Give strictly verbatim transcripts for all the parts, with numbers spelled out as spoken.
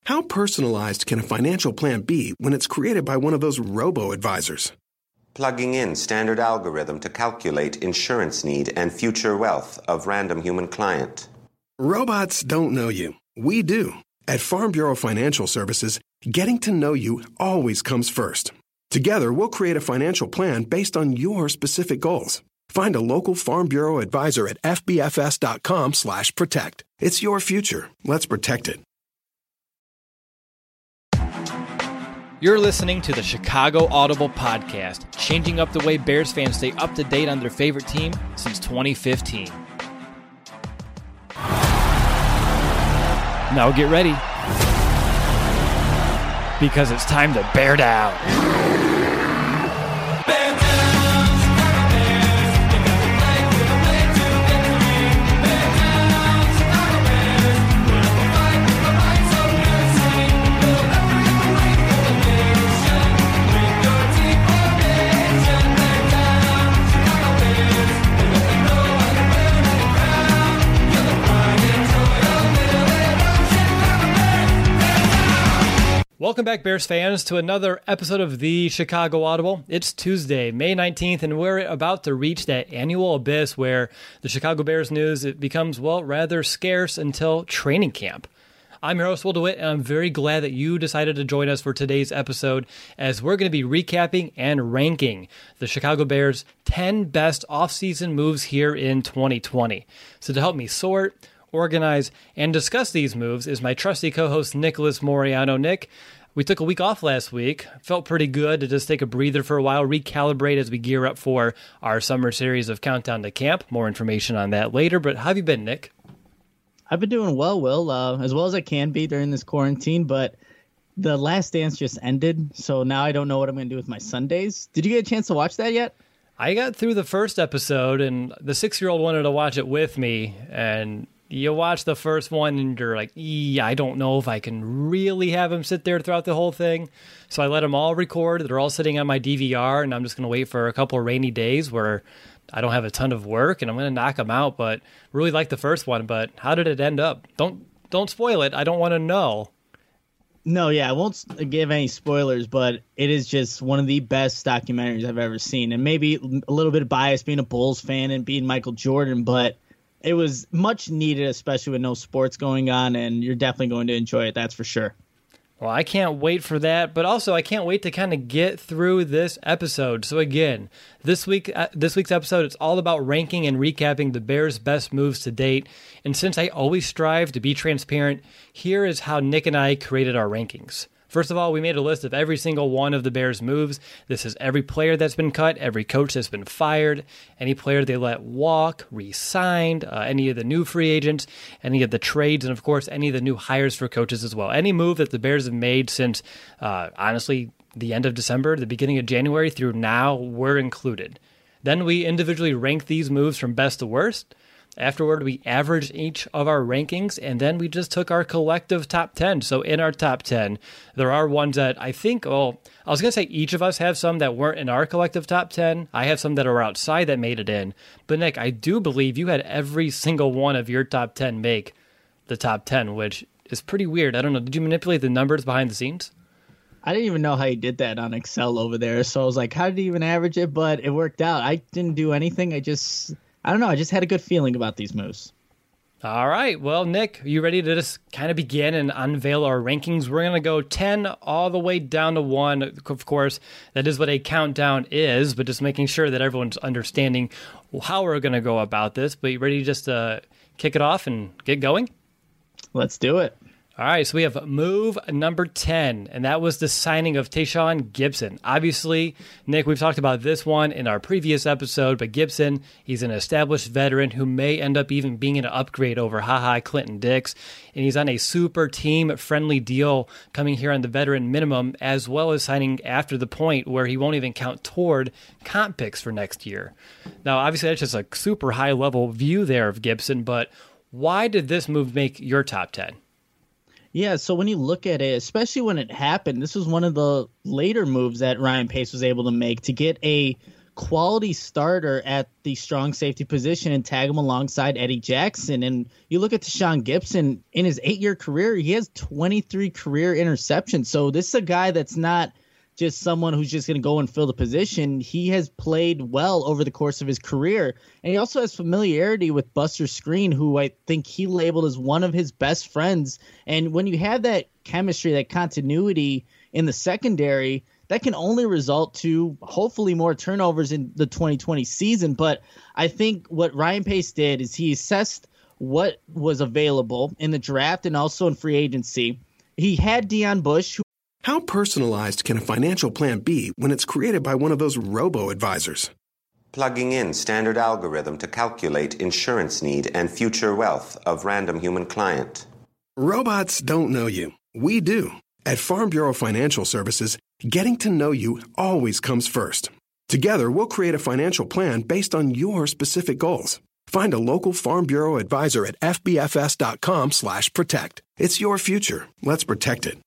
How personalized can a financial plan be when it's created by one of those robo-advisors? Plugging in standard algorithm to calculate insurance need and future wealth of random human client. Robots don't know you. We do. At Farm Bureau Financial Services, getting to know you always comes first. Together, we'll create a financial plan based on your specific goals. Find a local Farm Bureau advisor at f b f s dot com slash protect. It's your future. Let's protect it. You're listening to the Chicago Audible Podcast, changing up the way Bears fans stay up to date on their favorite team since twenty fifteen. Now get ready, because it's time to bear down. Welcome back, Bears fans, to another episode of the Chicago Audible. It's Tuesday, May nineteenth, and we're about to reach that annual abyss where the Chicago Bears news it becomes, well, rather scarce until training camp. I'm your host, Will DeWitt, and I'm very glad that you decided to join us for today's episode as we're going to be recapping and ranking the Chicago Bears' ten best offseason moves here in twenty twenty. So to help me sort, organize, and discuss these moves is my trusty co-host, Nicholas Moriano. Nick, we took a week off last week. Felt pretty good to just take a breather for a while, recalibrate as we gear up for our summer series of Countdown to Camp. More information on that later, but how have you been, Nick? I've been doing well, Will, uh, as well as I can be during this quarantine, but The Last Dance just ended, so now I don't know what I'm going to do with my Sundays. Did you get a chance to watch that yet? I got through the first episode, and the six-year-old wanted to watch it with me, and you watch the first one and you're like, yeah, I don't know if I can really have him sit there throughout the whole thing. So I let them all record. They're all sitting on my D V R, and I'm just going to wait for a couple of rainy days where I don't have a ton of work, and I'm going to knock them out. But really like the first one. But how did it end up? Don't don't spoil it. I don't want to know. No, yeah, I won't give any spoilers, but it is just one of the best documentaries I've ever seen. And maybe a little bit of bias being a Bulls fan and being Michael Jordan, but it was much needed, especially with no sports going on, and you're definitely going to enjoy it, that's for sure. Well, I can't wait for that, but also I can't wait to kind of get through this episode. So again, this week, uh, this week's episode, it's all about ranking and recapping the Bears' best moves to date. And since I always strive to be transparent, here is how Nick and I created our rankings. First of all, we made a list of every single one of the Bears' moves. This is every player that's been cut, every coach that's been fired, any player they let walk, re-signed, uh, any of the new free agents, any of the trades, and of course, any of the new hires for coaches as well. Any move that the Bears have made since, uh, honestly, the end of December, the beginning of January through now, were included. Then we individually rank these moves from best to worst. Afterward, we averaged each of our rankings, and then we just took our collective top ten. So in our top ten, there are ones that I think, well, I was going to say each of us have some that weren't in our collective top ten. I have some that are outside that made it in. But Nick, I do believe you had every single one of your top ten make the top ten, which is pretty weird. I don't know. Did you manipulate the numbers behind the scenes? I didn't even know how you did that on Excel over there. So I was like, how did he even average it? But it worked out. I didn't do anything. I just... I don't know. I just had a good feeling about these moves. All right. Well, Nick, are you ready to just kind of begin and unveil our rankings? We're going to go ten all the way down to one. Of course, that is what a countdown is, but just making sure that everyone's understanding how we're going to go about this. But you ready just to kick it off and get going? Let's do it. All right, so we have move number ten, and that was the signing of Tayshaun Gibson. Obviously, Nick, we've talked about this one in our previous episode, but Gibson, he's an established veteran who may end up even being an upgrade over HaHa Clinton Dix, and he's on a super team-friendly deal coming here on the veteran minimum, as well as signing after the point where he won't even count toward comp picks for next year. Now, obviously, that's just a super high-level view there of Gibson, but why did this move make your top ten? Yeah, so when you look at it, especially when it happened, this was one of the later moves that Ryan Pace was able to make to get a quality starter at the strong safety position and tag him alongside Eddie Jackson. And you look at Tashaun Gipson, in his eight-year career, he has twenty-three career interceptions. So this is a guy that's not just someone who's just going to go and fill the position. He has played well over the course of his career. And he also has familiarity with Buster Skrine, who I think he labeled as one of his best friends. And when you have that chemistry, that continuity in the secondary, that can only result to hopefully more turnovers in the twenty twenty season. But I think what Ryan Pace did is he assessed what was available in the draft and also in free agency. He had Deion Bush, who How personalized can a financial plan be when it's created by one of those robo-advisors? Plugging in standard algorithm to calculate insurance need and future wealth of random human client. Robots don't know you. We do. At Farm Bureau Financial Services, getting to know you always comes first. Together, we'll create a financial plan based on your specific goals. Find a local Farm Bureau advisor at fbfs.com slash protect. It's your future. Let's protect it.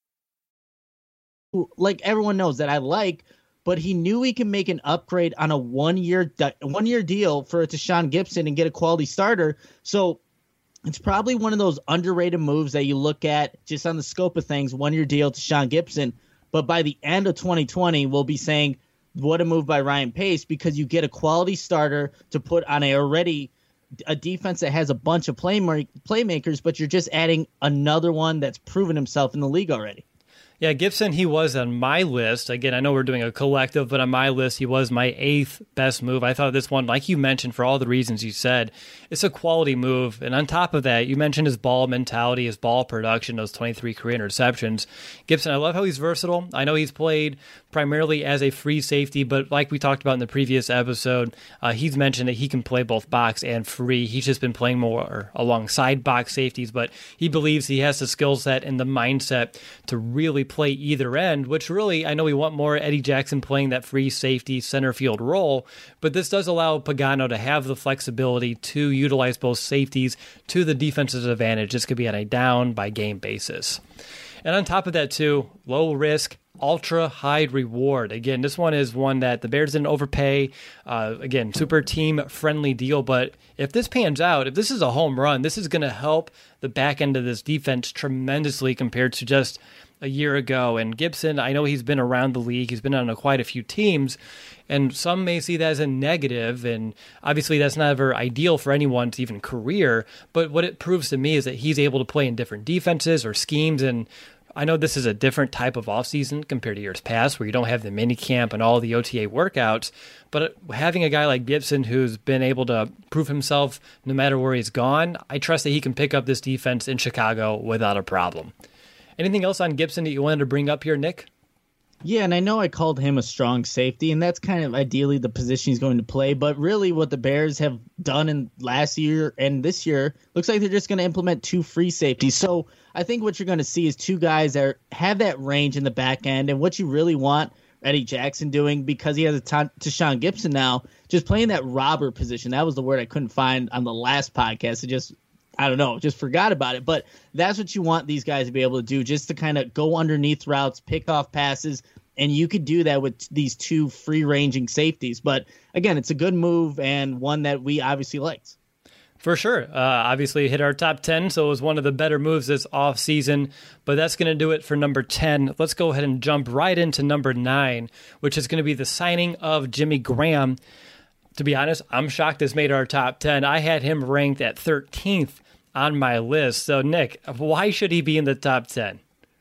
like everyone knows that I like, but he knew he could make an upgrade on a one-year one-year deal for Tashaun Gipson and get a quality starter. So it's probably one of those underrated moves that you look at just on the scope of things, one-year deal to Tashaun Gipson. But by the end of twenty twenty, we'll be saying, what a move by Ryan Pace, because you get a quality starter to put on a already a defense that has a bunch of play playmakers, but you're just adding another one that's proven himself in the league already. Yeah, Gipson, he was on my list. Again, I know we're doing a collective, but on my list, he was my eighth best move. I thought this one, like you mentioned, for all the reasons you said, it's a quality move. And on top of that, you mentioned his ball mentality, his ball production, those twenty-three career interceptions. Gipson, I love how he's versatile. I know he's played primarily as a free safety, but like we talked about in the previous episode, uh, he's mentioned that he can play both box and free. He's just been playing more alongside box safeties, but he believes he has the skill set and the mindset to really play either end, which really, I know we want more Eddie Jackson playing that free safety center field role, but this does allow Pagano to have the flexibility to utilize both safeties to the defense's advantage. This could be on a down by game basis. And on top of that too, low risk, ultra high reward. Again, this one is one that the Bears didn't overpay. Uh, again, super team friendly deal. But if this pans out, if this is a home run, this is going to help the back end of this defense tremendously compared to just a year ago. And Gipson, I know he's been around the league. He's been on a, quite a few teams, and some may see that as a negative. And obviously that's never ideal for anyone's even career. But what it proves to me is that he's able to play in different defenses or schemes. And I know this is a different type of offseason compared to years past where you don't have the mini camp and all the O T A workouts, but having a guy like Gipson who's been able to prove himself no matter where he's gone, I trust that he can pick up this defense in Chicago without a problem. Anything else on Gipson that you wanted to bring up here, Nick? Yeah, and I know I called him a strong safety, and that's kind of ideally the position he's going to play. But really what the Bears have done in last year and this year looks like they're just going to implement two free safeties. So I think what you're going to see is two guys that are, have that range in the back end, and what you really want Eddie Jackson doing, because he has a ton to Tashaun Gipson now, just playing that robber position. That was the word I couldn't find on the last podcast. It just I don't know, just forgot about it. But that's what you want these guys to be able to do, just to kind of go underneath routes, pick off passes, and you could do that with these two free-ranging safeties. But, again, it's a good move and one that we obviously liked. For sure. Uh, obviously hit our top ten, so it was one of the better moves this offseason. But that's going to do it for number ten. Let's go ahead and jump right into number nine, which is going to be the signing of Jimmy Graham. To be honest, I'm shocked this made our top ten. I had him ranked at thirteenth on my list. So, Nick, why should he be in the top ten?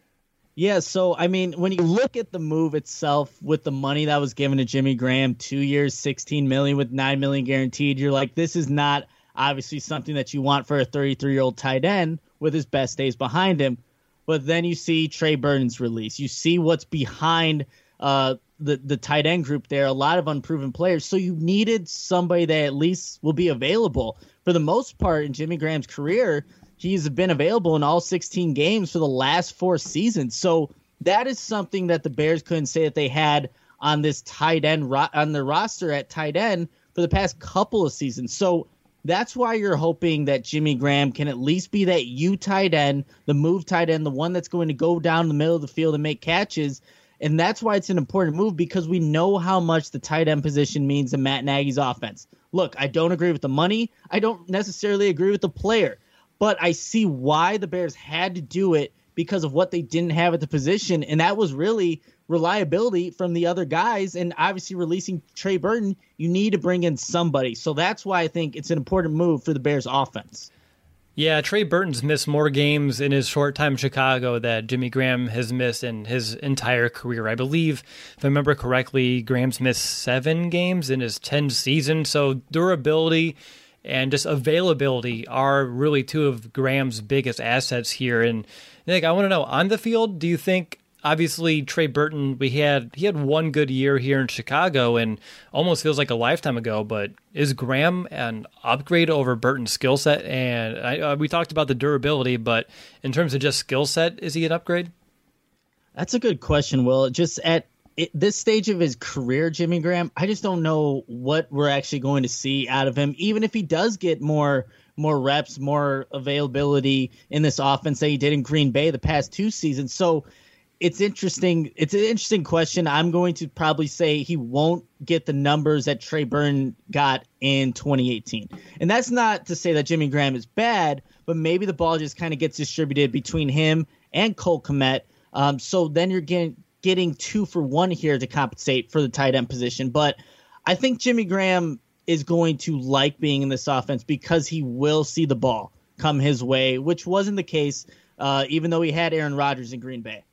Yeah, so, I mean, when you look at the move itself with the money that was given to Jimmy Graham, two years, sixteen million dollars with nine million dollars guaranteed, you're like, this is not obviously something that you want for a thirty-three-year-old tight end with his best days behind him. But then you see Trey Burton's release. You see what's behind uh, the, the tight end group there, a lot of unproven players. So you needed somebody that at least will be available. For the most part in Jimmy Graham's career, he's been available in all sixteen games for the last four seasons. So that is something that the Bears couldn't say that they had on this tight end ro- on their roster at tight end for the past couple of seasons. So that's why you're hoping that Jimmy Graham can at least be that U tight end, the move tight end, the one that's going to go down the middle of the field and make catches. And that's why it's an important move, because we know how much the tight end position means to Matt Nagy's offense. Look, I don't agree with the money. I don't necessarily agree with the player, but I see why the Bears had to do it because of what they didn't have at the position. And that was really reliability from the other guys. And obviously releasing Trey Burton, you need to bring in somebody. So that's why I think it's an important move for the Bears offense. Yeah, Trey Burton's missed more games in his short time in Chicago that Jimmy Graham has missed in his entire career. I believe, if I remember correctly, Graham's missed seven games in his ten seasons. So durability and just availability are really two of Graham's biggest assets here. And Nick, I want to know, on the field, do you think, obviously Trey Burton, we had he had one good year here in Chicago and almost feels like a lifetime ago, but is Graham an upgrade over Burton's skill set? And I, uh, we talked about the durability, but in terms of just skill set, is he an upgrade? That's a good question, Will. Just at it, this stage of his career, Jimmy Graham, I just don't know what we're actually going to see out of him, even if he does get more more reps, more availability in this offense that he did in Green Bay the past two seasons. So it's interesting. It's an interesting question. I'm going to probably say he won't get the numbers that Trey Burton got in twenty eighteen. And that's not to say that Jimmy Graham is bad, but maybe the ball just kind of gets distributed between him and Cole Kmet. Um, so then you're getting getting two for one here to compensate for the tight end position. But I think Jimmy Graham is going to like being in this offense because he will see the ball come his way, which wasn't the case, uh, even though he had Aaron Rodgers in Green Bay.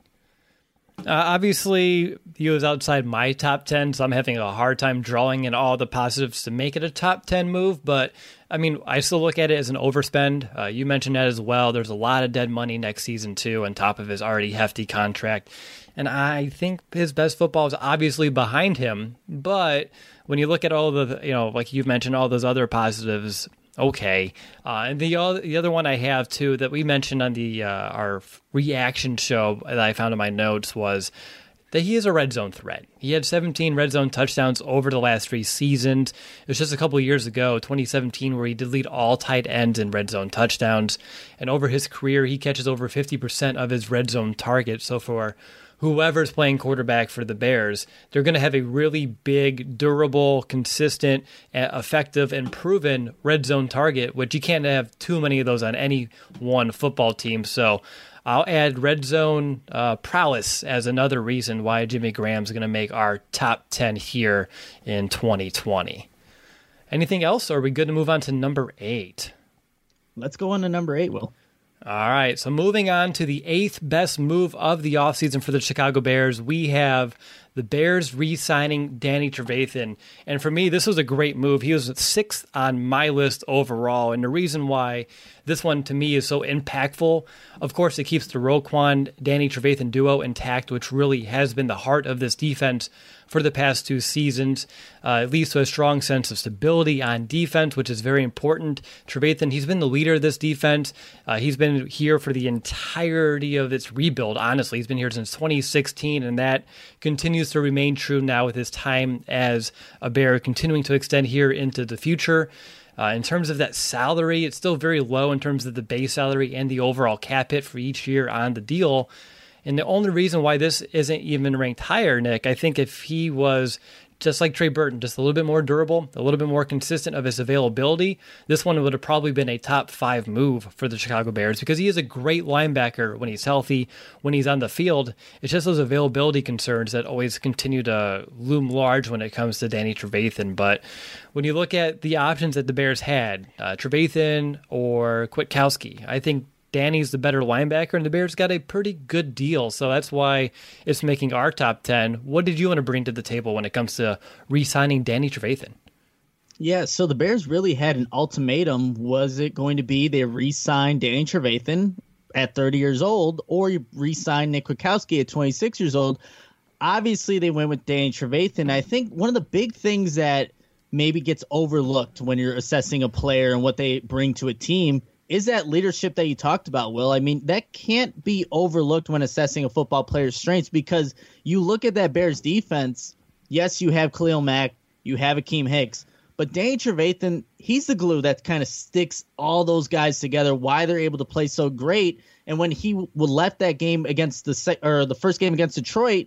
Uh, obviously, he was outside my top ten, so I'm having a hard time drawing in all the positives to make it a top ten move. But, I mean, I still look at it as an overspend. Uh, you mentioned that as well. There's a lot of dead money next season, too, on top of his already hefty contract. And I think his best football is obviously behind him. But when you look at all the, you know, like you've mentioned, all those other positives, okay. Uh, and the other, the other one I have, too, that we mentioned on the uh, our reaction show that I found in my notes was that he is a red zone threat. He had seventeen red zone touchdowns over the last three seasons. It was just a couple of years ago, twenty seventeen, where he did lead all tight ends in red zone touchdowns. And over his career, he catches over fifty percent of his red zone targets. So for whoever's playing quarterback for the Bears, they're going to have a really big, durable, consistent, effective, and proven red zone target, which you can't have too many of those on any one football team. So I'll add red zone uh, prowess as another reason why Jimmy Graham's going to make our top ten here in twenty twenty. Anything else, or are we good to move on to number eight? Let's go on to number eight, Will. All right, so moving on to the eighth best move of the offseason for the Chicago Bears, we have the Bears re-signing Danny Trevathan. And for me, this was a great move. He was sixth on my list overall. And the reason why this one, to me, is so impactful, of course, it keeps the Roquan, Danny Trevathan duo intact, which really has been the heart of this defense for the past two seasons. Uh, it leads to a strong sense of stability on defense, which is very important. Trevathan, he's been the leader of this defense. Uh, he's been here for the entirety of its rebuild, honestly. He's been here since twenty sixteen, and that continues to remain true now with his time as a Bear continuing to extend here into the future. Uh, in terms of that salary, it's still very low in terms of the base salary and the overall cap hit for each year on the deal. And the only reason why this isn't even ranked higher, Nick, I think if he was just like Trey Burton, just a little bit more durable, a little bit more consistent of his availability, this one would have probably been a top five move for the Chicago Bears because he is a great linebacker when he's healthy, when he's on the field. It's just those availability concerns that always continue to loom large when it comes to Danny Trevathan. But when you look at the options that the Bears had, uh, Trevathan or Kwiatkowski, I think Danny's the better linebacker, and the Bears got a pretty good deal. So that's why it's making our top ten. What did you want to bring to the table when it comes to re-signing Danny Trevathan? Yeah, so the Bears really had an ultimatum. Was it going to be they re-sign Danny Trevathan at thirty years old, or you re-sign Nick Kwiatkowski at twenty-six years old? Obviously, they went with Danny Trevathan. I think one of the big things that maybe gets overlooked when you're assessing a player and what they bring to a team is that leadership that you talked about, Will. I mean, that can't be overlooked when assessing a football player's strengths because you look at that Bears defense, yes, you have Khalil Mack, you have Akeem Hicks, but Danny Trevathan, he's the glue that kind of sticks all those guys together, why they're able to play so great. And when he left that game against the or the first game against Detroit,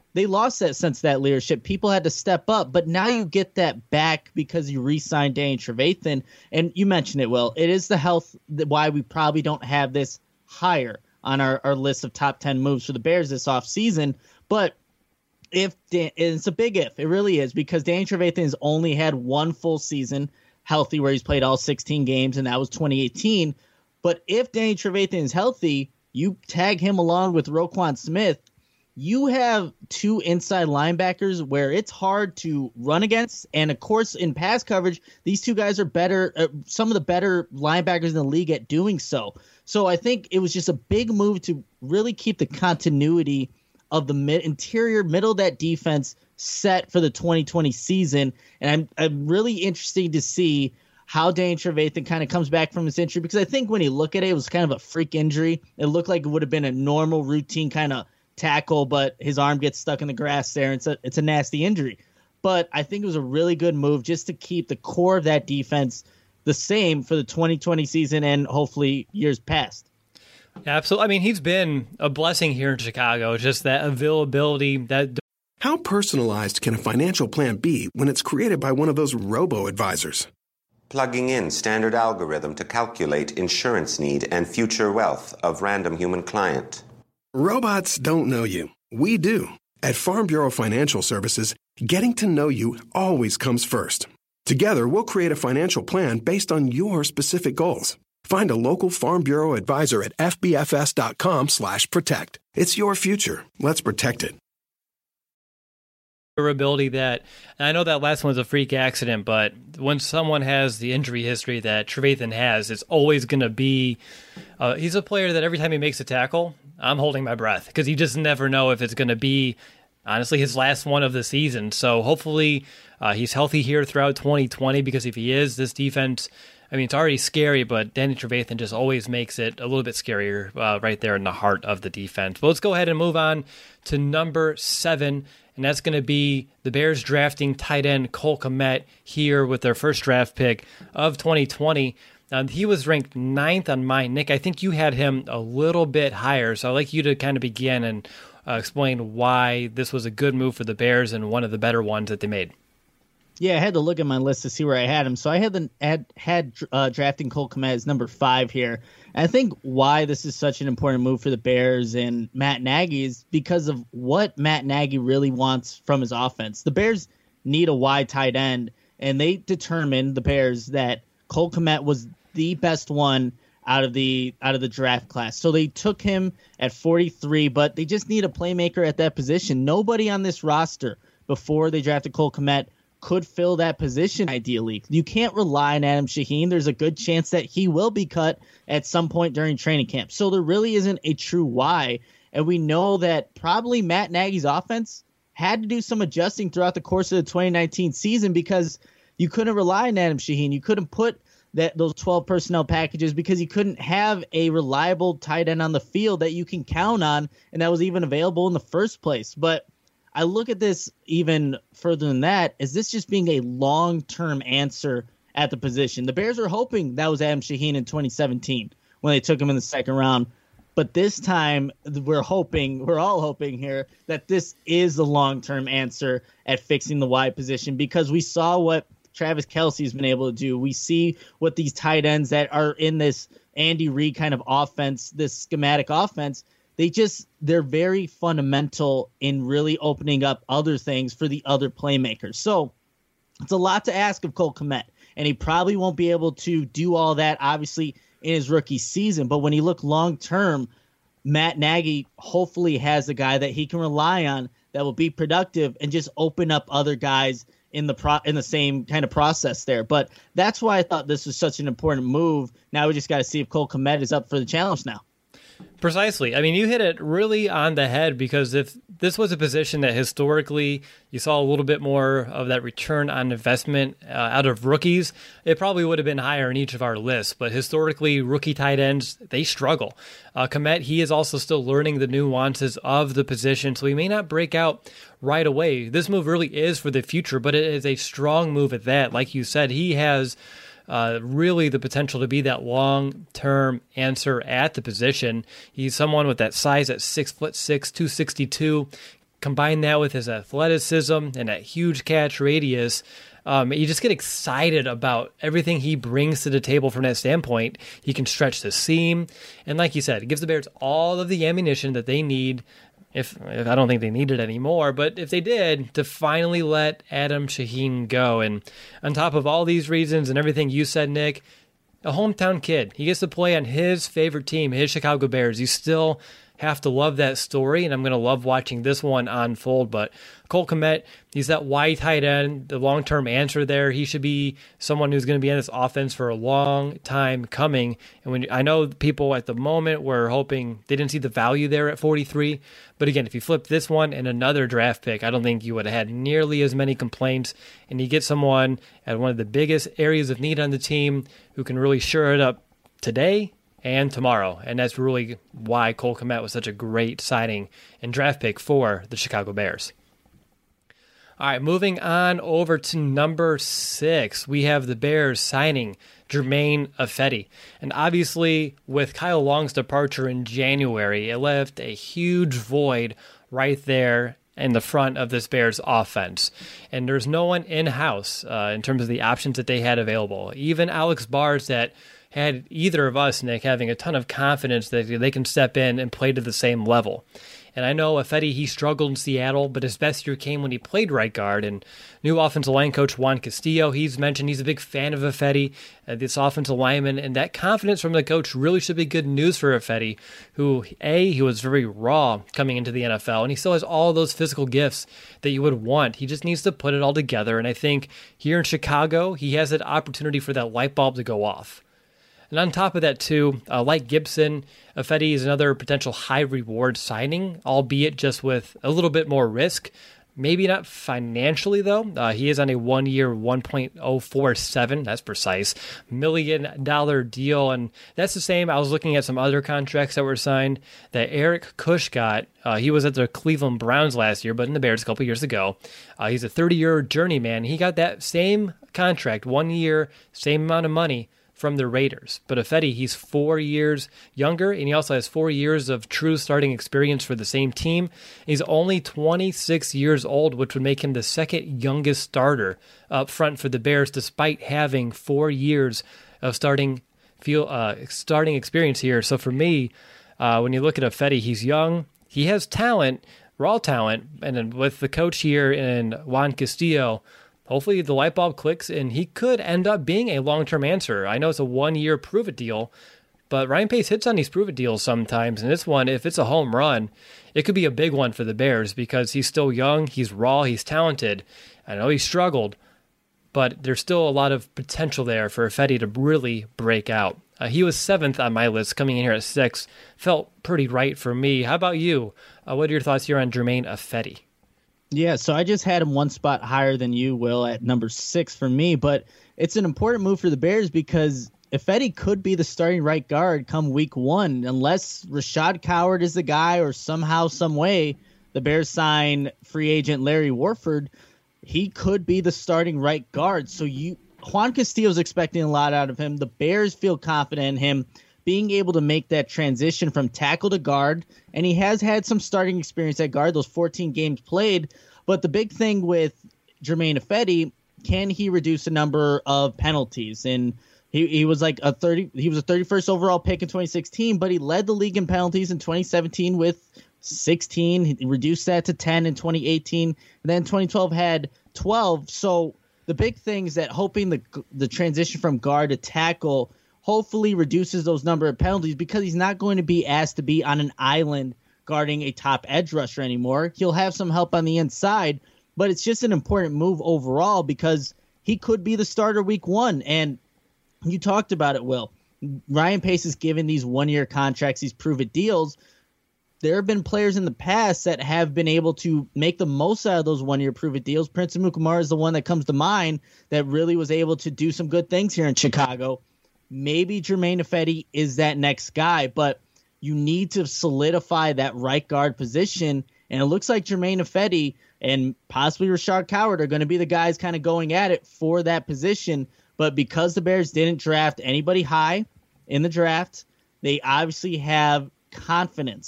they lost that sense of that leadership. People had to step up, but now you get that back because you re-signed Danny Trevathan. And you mentioned it, Will. It is the health that why we probably don't have this higher on our, our list of top ten moves for the Bears this offseason. But if Dan, it's a big if, it really is, because Danny Trevathan has only had one full season healthy where he's played all sixteen games, and that was twenty eighteen. But if Danny Trevathan is healthy, you tag him along with Roquan Smith, you have two inside linebackers where it's hard to run against. And, of course, in pass coverage, these two guys are better, uh, some of the better linebackers in the league at doing so. So I think it was just a big move to really keep the continuity of the mid interior middle of that defense set for the twenty twenty season. And I'm, I'm really interested to see how Danny Trevathan kind of comes back from his injury, because I think when you look at it, it was kind of a freak injury. It looked like it would have been a normal routine kind of tackle, but his arm gets stuck in the grass there. And it's a, it's a nasty injury. But I think it was a really good move just to keep the core of that defense the same for the twenty twenty season and hopefully years past. Absolutely. I mean, he's been a blessing here in Chicago, just that availability. That. How personalized can a financial plan be when it's created by one of those robo-advisors? Plugging in standard algorithm to calculate insurance need and future wealth of random human client. Robots don't know you. We do. At Farm Bureau Financial Services, getting to know you always comes first. Together, we'll create a financial plan based on your specific goals. Find a local Farm Bureau advisor at fbfs.com slash protect. It's your future. Let's protect it. Durability that, and I know that last one was a freak accident, but when someone has the injury history that Trevathan has, it's always going to be, uh, he's a player that every time he makes a tackle, I'm holding my breath, because you just never know if it's going to be, honestly, his last one of the season. So hopefully uh, he's healthy here throughout twenty twenty, because if he is, this defense, I mean, it's already scary, but Danny Trevathan just always makes it a little bit scarier uh, right there in the heart of the defense. But let's go ahead and move on to number seven, and that's going to be the Bears drafting tight end Cole Kmet here with their first draft pick of twenty twenty. Um, he was ranked ninth on mine. Nick, I think you had him a little bit higher, so I'd like you to kind of begin and uh, explain why this was a good move for the Bears and one of the better ones that they made. Yeah, I had to look at my list to see where I had him. So I had the, had, had uh, drafting Cole Kmet as number five here. And I think why this is such an important move for the Bears and Matt Nagy is because of what Matt Nagy really wants from his offense. The Bears need a wide tight end, and they determined, the Bears, that Cole Kmet was the best one out of the out of the draft class. So they took him at forty-three, but they just need a playmaker at that position. Nobody on this roster before they drafted Cole Kmet could fill that position ideally. You can't rely on Adam Shaheen. There's a good chance that he will be cut at some point during training camp. So there really isn't a true why. And we know that probably Matt Nagy's offense had to do some adjusting throughout the course of the twenty nineteen season, because you couldn't rely on Adam Shaheen. You couldn't put that those twelve personnel packages because you couldn't have a reliable tight end on the field that you can count on, and that was even available in the first place. But I look at this even further than that. Is this just being a long-term answer at the position? The Bears were hoping that was Adam Shaheen in twenty seventeen when they took him in the second round. But this time we're hoping, we're all hoping here, that this is the long-term answer at fixing the wide position, because we saw what Travis Kelce has been able to do. We see what these tight ends that are in this Andy Reid kind of offense, this schematic offense, they just, they're very fundamental in really opening up other things for the other playmakers. So it's a lot to ask of Cole Kmet, and he probably won't be able to do all that, obviously, in his rookie season. But when you look long-term, Matt Nagy hopefully has a guy that he can rely on that will be productive and just open up other guys in the pro in the same kind of process there. But that's why I thought this was such an important move. Now we just got to see if Cole Kmet is up for the challenge now. Precisely. I mean, you hit it really on the head, because if this was a position that historically you saw a little bit more of that return on investment uh, out of rookies, it probably would have been higher in each of our lists. But historically, rookie tight ends, they struggle. Uh, Kmet, he is also still learning the nuances of the position, so he may not break out right away. This move really is for the future, but it is a strong move at that. Like you said, he has Uh, really the potential to be that long-term answer at the position. He's someone with that size at six foot six, two sixty-two, combine that with his athleticism and that huge catch radius, um, you just get excited about everything he brings to the table from that standpoint. He can stretch the seam, and like you said, it gives the Bears all of the ammunition that they need. If, if I don't think they need it anymore, but if they did, to finally let Adam Shaheen go. And on top of all these reasons and everything you said, Nick, a hometown kid. He gets to play on his favorite team, his Chicago Bears. You still have to love that story, and I'm going to love watching this one unfold. But Cole Kmet, he's that wide tight end, the long-term answer there. He should be someone who's going to be in this offense for a long time coming. And when I know people at the moment were hoping they didn't see the value there at forty-three. But again, if you flip this one and another draft pick, I don't think you would have had nearly as many complaints. And you get someone at one of the biggest areas of need on the team who can really shore it up today and tomorrow. And that's really why Cole Kmet was such a great signing and draft pick for the Chicago Bears. All right, moving on over to number six, we have the Bears signing Germain Ifedi. And obviously, with Kyle Long's departure in January, it left a huge void right there in the front of this Bears offense. And there's no one in-house uh, in terms of the options that they had available. Even Alex Bars, that had either of us, Nick, having a ton of confidence that they can step in and play to the same level. And I know Ifedi, he struggled in Seattle, but his best year came when he played right guard. And new offensive line coach Juan Castillo, he's mentioned he's a big fan of Ifedi, uh, this offensive lineman. And that confidence from the coach really should be good news for Ifedi, who, A, he was very raw coming into the N F L, and he still has all those physical gifts that you would want. He just needs to put it all together. And I think here in Chicago, he has that opportunity for that light bulb to go off. And on top of that, too, uh, like Gibson, Ifedi is another potential high-reward signing, albeit just with a little bit more risk. Maybe not financially, though. Uh, he is on a one-year, one point oh four seven, that's precise, million dollar deal. And that's the same. I was looking at some other contracts that were signed that Eric Kush got. Uh, he was at the Cleveland Browns last year, but in the Bears a couple years ago. Uh, he's a thirty-year journeyman. He got that same contract, one year, same amount of money from the Raiders. But Ifedi, he's four years younger, and he also has four years of true starting experience for the same team. He's only twenty-six years old, which would make him the second youngest starter up front for the Bears, despite having four years of starting feel uh, starting experience here. So for me, uh, when you look at Ifedi, he's young, he has talent, raw talent, and then with the coach here in Juan Castillo, hopefully the light bulb clicks and he could end up being a long-term answer. I know it's a one-year prove-it deal, but Ryan Pace hits on these prove-it deals sometimes. And this one, if it's a home run, it could be a big one for the Bears because he's still young, he's raw, he's talented. I know he struggled, but there's still a lot of potential there for Ifedi to really break out. Uh, he was seventh on my list, coming in here at sixth. Felt pretty right for me. How about you? Uh, what are your thoughts here on Germain Ifedi? Yeah, so I just had him one spot higher than you, Will, at number six for me. But it's an important move for the Bears because Ifedi could be the starting right guard come week one, unless Rashad Coward is the guy or somehow, some way, the Bears sign free agent Larry Warford. He could be the starting right guard. So you, Juan Castillo's expecting a lot out of him. The Bears feel confident in him being able to make that transition from tackle to guard, and he has had some starting experience at guard, those fourteen games played. But the big thing with Germain Ifedi, can he reduce the number of penalties? And he, he was like a thirty, he was a thirty-first overall pick in twenty sixteen, but he led the league in penalties in twenty seventeen with sixteen. He reduced that to ten in twenty eighteen, and then twenty twelve had twelve. So the big thing is that hoping the the transition from guard to tackle hopefully reduces those number of penalties because he's not going to be asked to be on an island guarding a top edge rusher anymore. He'll have some help on the inside, but it's just an important move overall because he could be the starter week one. And you talked about it, Will. Ryan Pace is giving these one-year contracts, these prove-it deals. There have been players in the past that have been able to make the most out of those one-year prove-it deals. Prince Amukamara is the one that comes to mind that really was able to do some good things here in Chicago. Maybe Germain Ifedi is that next guy, but you need to solidify that right guard position, and it looks like Germain Ifedi and possibly Rashad Coward are going to be the guys kind of going at it for that position. But because the Bears didn't draft anybody high in the draft, they obviously have confidence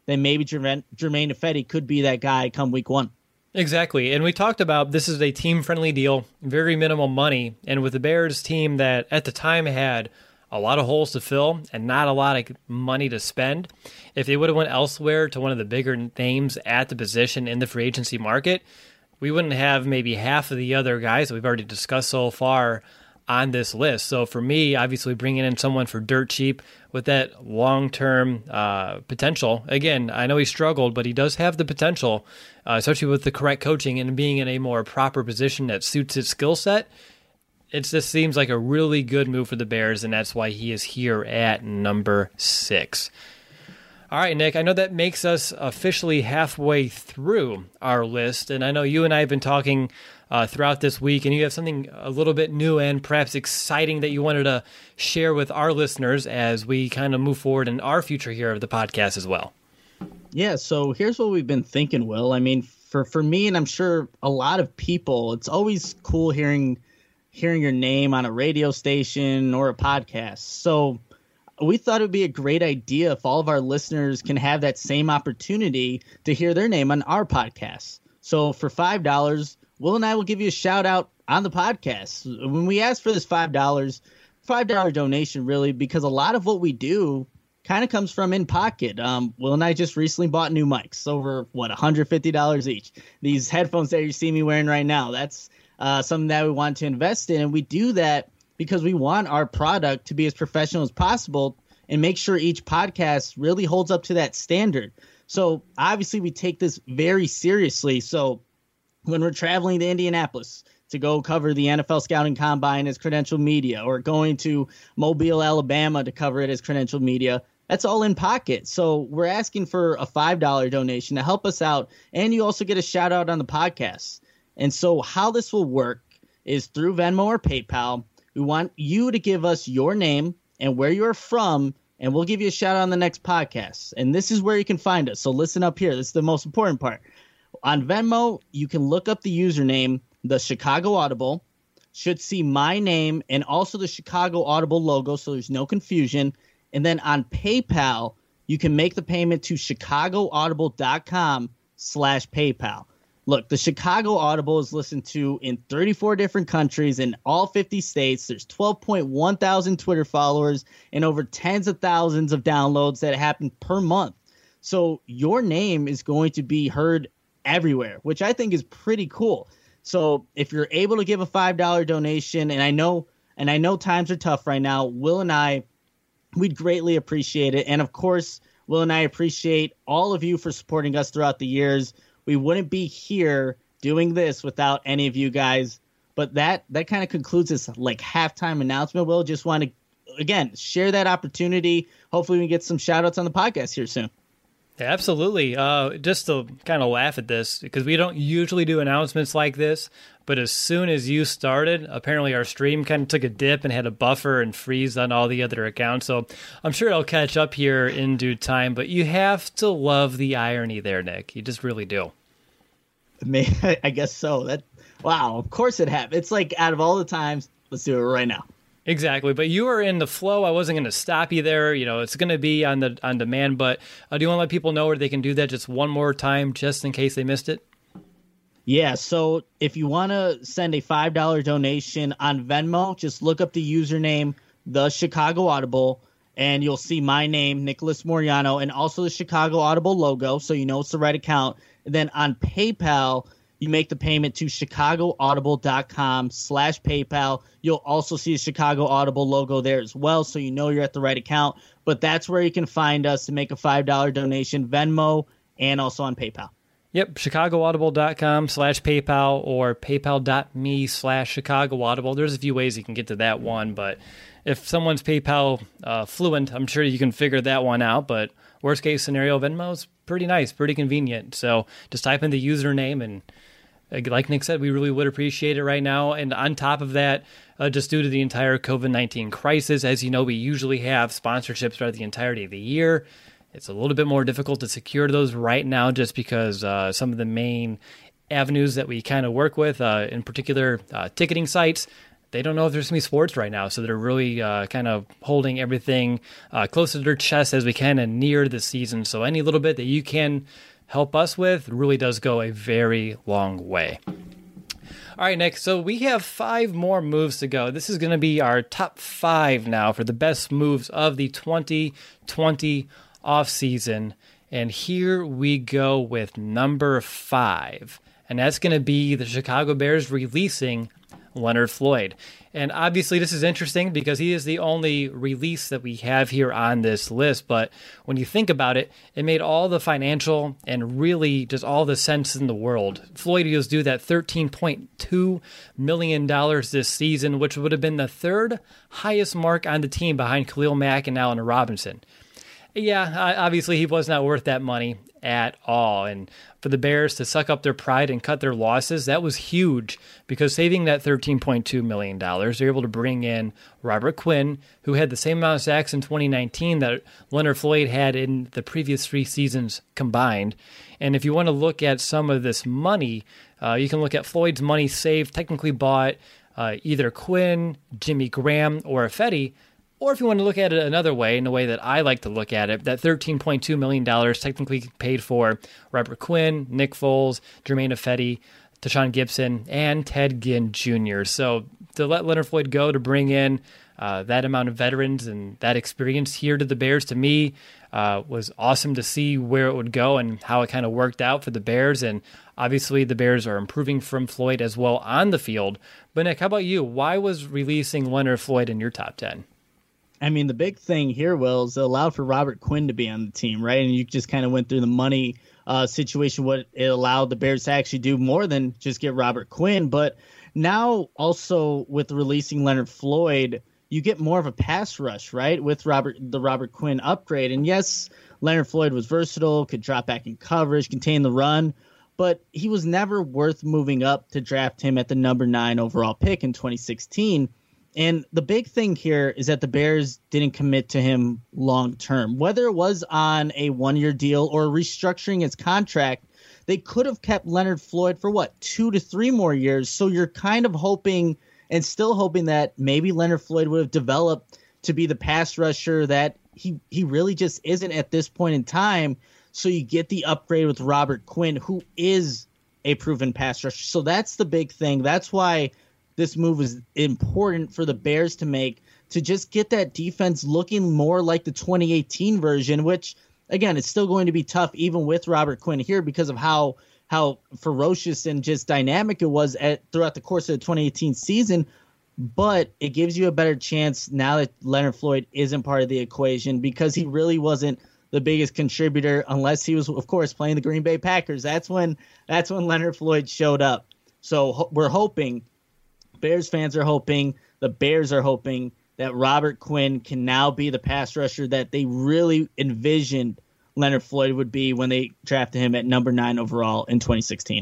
then maybe Jermaine, Jermaine Ifedi could be that guy come week one. Exactly. And we talked about this is a team-friendly deal, very minimal money. And with the Bears team that at the time had a lot of holes to fill and not a lot of money to spend, if they would have went elsewhere to one of the bigger names at the position in the free agency market, we wouldn't have maybe half of the other guys that we've already discussed so far on this list. So for me, obviously bringing in someone for dirt cheap with that long-term uh, potential. Again, I know he struggled, but he does have the potential, uh, especially with the correct coaching and being in a more proper position that suits his skill set. It just seems like a really good move for the Bears, and that's why he is here at number six. All right, Nick, I know that makes us officially halfway through our list, and I know you and I have been talking uh, throughout this week, and you have something a little bit new and perhaps exciting that you wanted to share with our listeners as we kind of move forward in our future here of the podcast as well. Yeah, so here's what we've been thinking, Will. I mean, for, for me, and I'm sure a lot of people, it's always cool hearing hearing your name on a radio station or a podcast. So we thought it would be a great idea if all of our listeners can have that same opportunity to hear their name on our podcast. So for five dollars, Will and I will give you a shout out on the podcast. When we asked for this five dollars, five dollars donation, really, because a lot of what we do kind of comes from in pocket. Um, Will and I just recently bought new mics over, what, one hundred fifty dollars each. These headphones that you see me wearing right now, that's uh, something that we want to invest in. And we do that because we want our product to be as professional as possible and make sure each podcast really holds up to that standard. So obviously we take this very seriously. So when we're traveling to Indianapolis to go cover the N F L Scouting Combine as Credential Media, or going to Mobile, Alabama to cover it as Credential Media, that's all in pocket. So we're asking for a five dollars donation to help us out, and you also get a shout out on the podcast. And so how this will work is through Venmo or PayPal. We want you to give us your name and where you're from, and we'll give you a shout out on the next podcast. And this is where you can find us. So listen up here. This is the most important part. On Venmo, you can look up the username, the Chicago Audible, should see my name and also the Chicago Audible logo, so there's no confusion. And then on PayPal, you can make the payment to chicagoaudible.com slash PayPal. Look, the Chicago Audible is listened to in thirty-four different countries in all fifty states. There's twelve point one thousand Twitter followers and over tens of thousands of downloads that happen per month. So your name is going to be heard everywhere, which I think is pretty cool. So if you're able to give a five dollars donation, and I know and I know times are tough right now, Will and I, we'd greatly appreciate it. And of course, Will and I appreciate all of you for supporting us throughout the years. We wouldn't be here doing this without any of you guys. But that that kind of concludes this like halftime announcement. Will, just want to, again, share that opportunity. Hopefully we get some shout outs on the podcast here soon. Yeah, absolutely. Uh, just to kind of laugh at this, because we don't usually do announcements like this, but as soon as you started, apparently our stream kind of took a dip and had a buffer and freeze on all the other accounts. So I'm sure it'll catch up here in due time, but you have to love the irony there, Nick. You just really do. I guess so. That wow, of course it happened. It's like out of all the times, let's do it right now. Exactly, but you were in the flow. I wasn't going to stop you there. You know, it's going to be on the on demand. But uh, do you want to let people know where they can do that just one more time, just in case they missed it? Yeah. So if you want to send a five dollars donation on Venmo, just look up the username, the Chicago Audible, and you'll see my name, Nicholas Moriano, and also the Chicago Audible logo, so you know it's the right account. And then on PayPal, you make the payment to chicagoaudible.com slash PayPal. You'll also see the Chicago Audible logo there as well, so you know you're at the right account. But that's where you can find us to make a five dollars donation, Venmo, and also on PayPal. Yep, chicagoaudible.com slash PayPal or paypal.me slash Chicago Audible. There's a few ways you can get to that one, but if someone's PayPal uh, fluent, I'm sure you can figure that one out. But worst case scenario, Venmo's pretty nice, pretty convenient. So just type in the username, and like Nick said, we really would appreciate it right now. And on top of that, uh, just due to the entire covid nineteen crisis, as you know, we usually have sponsorships throughout the entirety of the year. It's a little bit more difficult to secure those right now just because uh, some of the main avenues that we kind of work with, uh, in particular uh, ticketing sites, they don't know if there's going to be sports right now. So they're really uh, kind of holding everything uh, close to their chest as we kind of near the season. So any little bit that you can help us with really does go a very long way. All right, Nick, so we have five more moves to go. This is going to be our top five now for the best moves of the twenty twenty offseason. And here we go with number five. And that's going to be the Chicago Bears releasing Leonard Floyd. And obviously this is interesting because he is the only release that we have here on this list. But when you think about it, it made all the financial and really just all the sense in the world. Floyd was due that thirteen point two million dollars this season, which would have been the third highest mark on the team behind Khalil Mack and Allen Robinson. Yeah, obviously he was not worth that money at all. And for the Bears to suck up their pride and cut their losses, that was huge because saving that thirteen point two million dollars, they're able to bring in Robert Quinn, who had the same amount of sacks in twenty nineteen that Leonard Floyd had in the previous three seasons combined. And if you want to look at some of this money, uh, you can look at Floyd's money saved, technically bought uh, either Quinn, Jimmy Graham, or Ifedi. Or if you want to look at it another way, in a way that I like to look at it, that thirteen point two million dollars technically paid for Robert Quinn, Nick Foles, Jermaine Ifedi, Tashaun Gibson, and Ted Ginn Junior So to let Leonard Floyd go to bring in uh, that amount of veterans and that experience here to the Bears, to me, uh, was awesome to see where it would go and how it kind of worked out for the Bears. And obviously the Bears are improving from Floyd as well on the field. But Nick, how about you? Why was releasing Leonard Floyd in your top ten? I mean, the big thing here, Will, is it allowed for Robert Quinn to be on the team, right? And you just kind of went through the money uh, situation, what it allowed the Bears to actually do more than just get Robert Quinn. But now also with releasing Leonard Floyd, you get more of a pass rush, right, with Robert the Robert Quinn upgrade. And yes, Leonard Floyd was versatile, could drop back in coverage, contain the run, but he was never worth moving up to draft him at the number nine overall pick in twenty sixteen. And the big thing here is that the Bears didn't commit to him long term. Whether it was on a one-year deal or restructuring his contract, they could have kept Leonard Floyd for, what, two to three more years. So you're kind of hoping and still hoping that maybe Leonard Floyd would have developed to be the pass rusher that he, he really just isn't at this point in time. So you get the upgrade with Robert Quinn, who is a proven pass rusher. So that's the big thing. That's why this move is important for the Bears to make, to just get that defense looking more like the twenty eighteen version, which, again, it's still going to be tough even with Robert Quinn here because of how how ferocious and just dynamic it was at throughout the course of the twenty eighteen season. But it gives you a better chance now that Leonard Floyd isn't part of the equation, because he really wasn't the biggest contributor unless he was, of course, playing the Green Bay Packers. That's when that's when Leonard Floyd showed up. So ho- we're hoping, Bears fans are hoping, the Bears are hoping that Robert Quinn can now be the pass rusher that they really envisioned Leonard Floyd would be when they drafted him at number nine overall in twenty sixteen.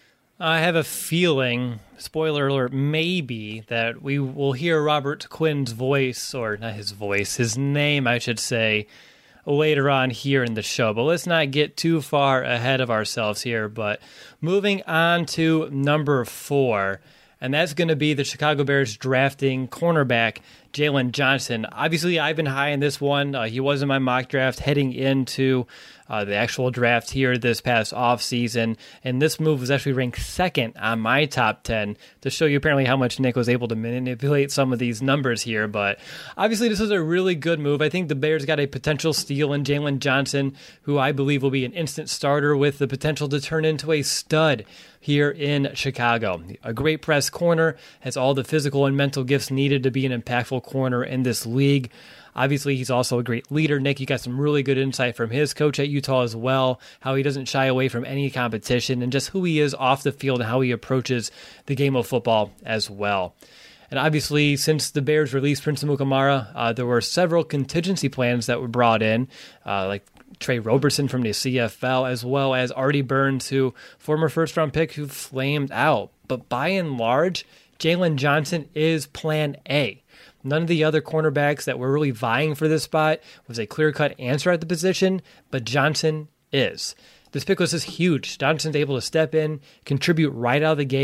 I have a feeling, spoiler alert, maybe, that we will hear Robert Quinn's voice, or not his voice, his name, I should say, later on here in the show. But let's not get too far ahead of ourselves here. But moving on to number four, and that's going to be the Chicago Bears drafting cornerback Jaylon Johnson. Obviously, I've been high in this one. Uh, he was in my mock draft heading into uh, the actual draft here this past offseason, and this move was actually ranked second on my top ten, to show you apparently how much Nick was able to manipulate some of these numbers here. But obviously, this was a really good move. I think the Bears got a potential steal in Jaylon Johnson, who I believe will be an instant starter with the potential to turn into a stud here in Chicago. A great press corner, has all the physical and mental gifts needed to be an impactful corner in this league. Obviously, he's also a great leader. Nick, you got some really good insight from his coach at Utah as well, how he doesn't shy away from any competition and just who he is off the field and how he approaches the game of football as well. And obviously, since the Bears released Prince Amukamara, uh, there were several contingency plans that were brought in, uh, like Trey Roberson from the C F L, as well as Artie Burns, who former first-round pick who flamed out. But by and large, Jaylon Johnson is plan A. None of the other cornerbacks that were really vying for this spot was a clear-cut answer at the position, but Johnson is. This pick was just huge. Johnson's able to step in, contribute right out of the gate.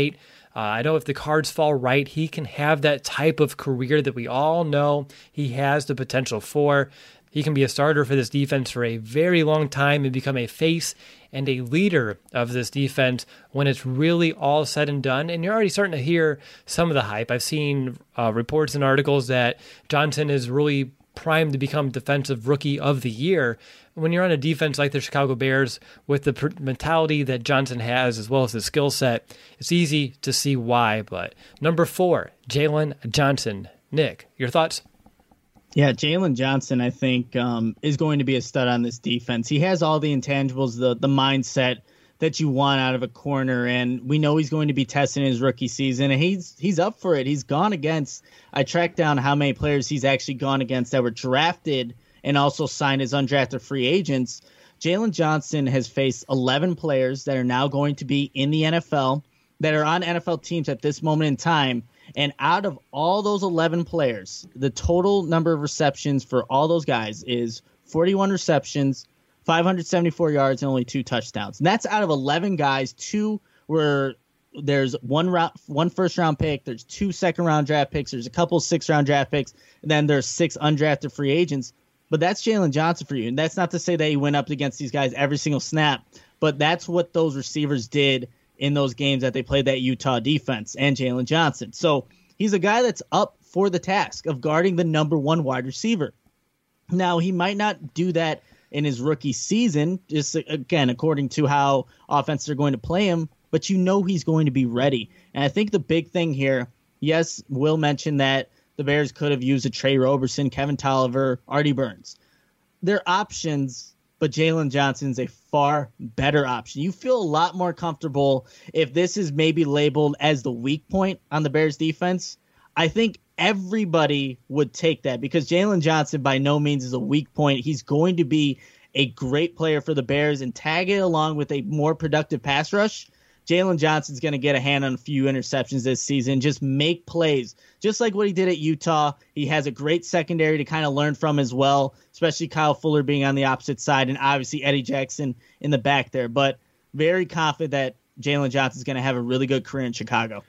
Uh, I know if the cards fall right, he can have that type of career that we all know he has the potential for. He can be a starter for this defense for a very long time and become a face and a leader of this defense when it's really all said and done. And you're already starting to hear some of the hype. I've seen uh, reports and articles that Johnson is really primed to become Defensive Rookie of the Year. When you're on a defense like the Chicago Bears with the pr- mentality that Johnson has as well as the skill set, it's easy to see why. But number four, Jaylon Johnson. Nick, your thoughts? Yeah, Jaylon Johnson, I think, um, is going to be a stud on this defense. He has all the intangibles, the the mindset that you want out of a corner, and we know he's going to be testing his rookie season, and he's he's up for it. He's gone against, I tracked down how many players he's actually gone against that were drafted and also signed as undrafted free agents. Jaylon Johnson has faced eleven players that are now going to be in the N F L, that are on N F L teams at this moment in time. And out of all those eleven players, the total number of receptions for all those guys is forty-one receptions, five hundred seventy-four yards, and only two touchdowns. And that's out of eleven guys. Two were there's one round, one first round pick. There's two second round draft picks. There's a couple six round draft picks. And then there's six undrafted free agents. But that's Jaylon Johnson for you. And that's not to say that he went up against these guys every single snap. But that's what those receivers did in those games that they played that Utah defense and Jaylon Johnson. So he's a guy that's up for the task of guarding the number one wide receiver. Now, he might not do that in his rookie season, just again, according to how offenses are going to play him, but you know he's going to be ready. And I think the big thing here, yes, Will mentioned that the Bears could have used a Trey Roberson, Kevin Tolliver, Artie Burns. They're options, but Jaylon Johnson's a far better option. You feel a lot more comfortable if this is maybe labeled as the weak point on the Bears defense. I think everybody would take that because Jaylon Johnson by no means is a weak point. He's going to be a great player for the Bears, and tag it along with a more productive pass rush. Jaylon Johnson's going to get a hand on a few interceptions this season, just make plays, just like what he did at Utah. He has a great secondary to kind of learn from as well, especially Kyle Fuller being on the opposite side and obviously Eddie Jackson in the back there. But very confident that Jaylon Johnson's going to have a really good career in Chicago.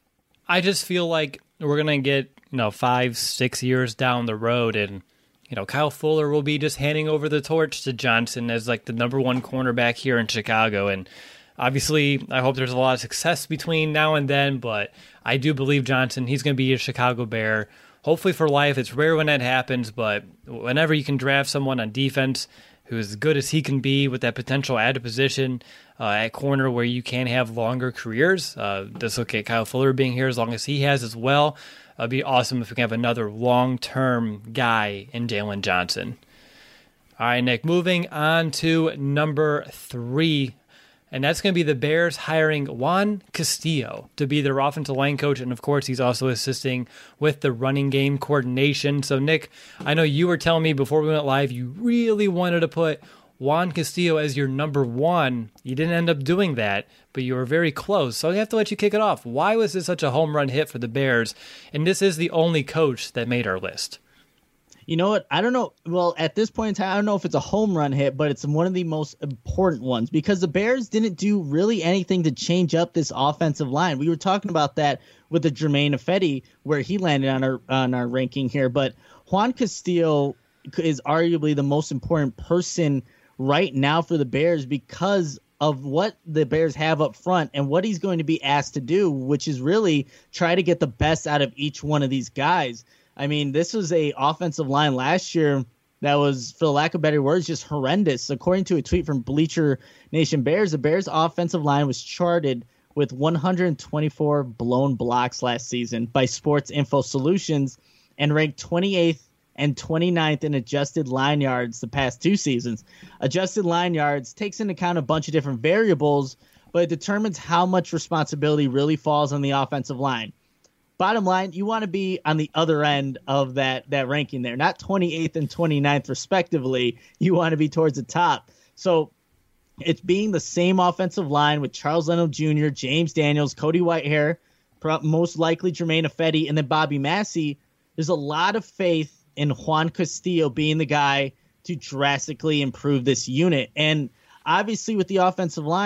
I just feel like we're going to get, you know, five, six years down the road and, you know, Kyle Fuller will be just handing over the torch to Johnson as like the number one cornerback here in Chicago. And obviously, I hope there's a lot of success between now and then, but I do believe Johnson, he's going to be a Chicago Bear, hopefully for life. It's rare when that happens, but whenever you can draft someone on defense who's as good as he can be with that potential added position uh, at corner where you can have longer careers, uh, this okay, Kyle Fuller being here as long as he has as well. It'd be awesome if we can have another long-term guy in Jaylon Johnson. All right, Nick, moving on to number three. And that's going to be the Bears hiring Juan Castillo to be their offensive line coach. And, of course, he's also assisting with the running game coordination. So, Nick, I know you were telling me before we went live you really wanted to put Juan Castillo as your number one. You didn't end up doing that, but you were very close. So I have to let you kick it off. Why was this such a home run hit for the Bears? And this is the only coach that made our list. You know what? I don't know. Well, at this point in time, I don't know if it's a home run hit, but it's one of the most important ones because the Bears didn't do really anything to change up this offensive line. We were talking about that with the Germain Ifedi, where he landed on our on our ranking here. But Juan Castillo is arguably the most important person right now for the Bears because of what the Bears have up front and what he's going to be asked to do, which is really try to get the best out of each one of these guys. I mean, this was a offensive line last year that was, for the lack of better words, just horrendous. According to a tweet from Bleacher Nation Bears, the Bears' offensive line was charted with one hundred twenty-four blown blocks last season by Sports Info Solutions and ranked twenty-eighth and twenty-ninth in adjusted line yards the past two seasons. Adjusted line yards takes into account a bunch of different variables, but it determines how much responsibility really falls on the offensive line. Bottom line, you want to be on the other end of that that ranking there, not twenty-eighth and twenty-ninth respectively. You want to be towards the top. So it's being the same offensive line with Charles Leno Junior, James Daniels, Cody Whitehair, most likely Germain Ifedi, and then Bobby Massey. There's a lot of faith in Juan Castillo being the guy to drastically improve this unit. And obviously with the offensive line,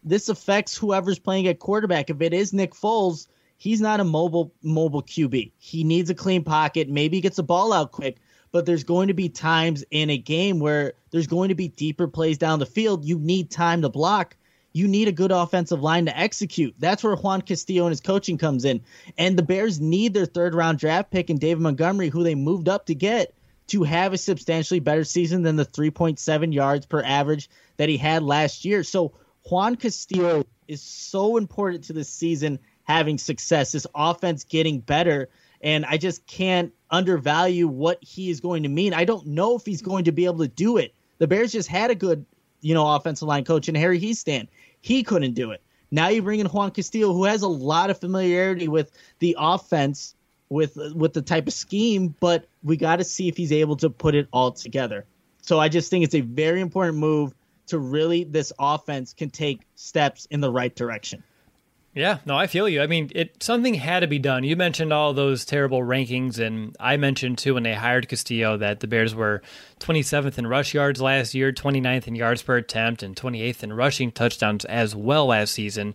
this affects whoever's playing at quarterback. If it is Nick Foles, he's not a mobile mobile Q B. He needs a clean pocket. Maybe he gets the ball out quick, but there's going to be times in a game where there's going to be deeper plays down the field. You need time to block. You need a good offensive line to execute. That's where Juan Castillo and his coaching comes in. And the Bears need their third-round draft pick in David Montgomery, who they moved up to get, to have a substantially better season than the three point seven yards per average that he had last year. So Juan Castillo is so important to this season having success, this offense getting better, and I just can't undervalue what he is going to mean. I don't know if he's going to be able to do it. The Bears just had a good, you know, offensive line coach in Harry Hiestand. He couldn't do it. Now you bring in Juan Castillo, who has a lot of familiarity with the offense, with with the type of scheme, but we got to see if he's able to put it all together. So I just think it's a very important move to really, this offense can take steps in the right direction. Yeah, no, I feel you. I mean, it something had to be done. You mentioned all those terrible rankings, and I mentioned, too, when they hired Castillo that the Bears were twenty-seventh in rush yards last year, twenty-ninth in yards per attempt, and twenty-eighth in rushing touchdowns as well last season.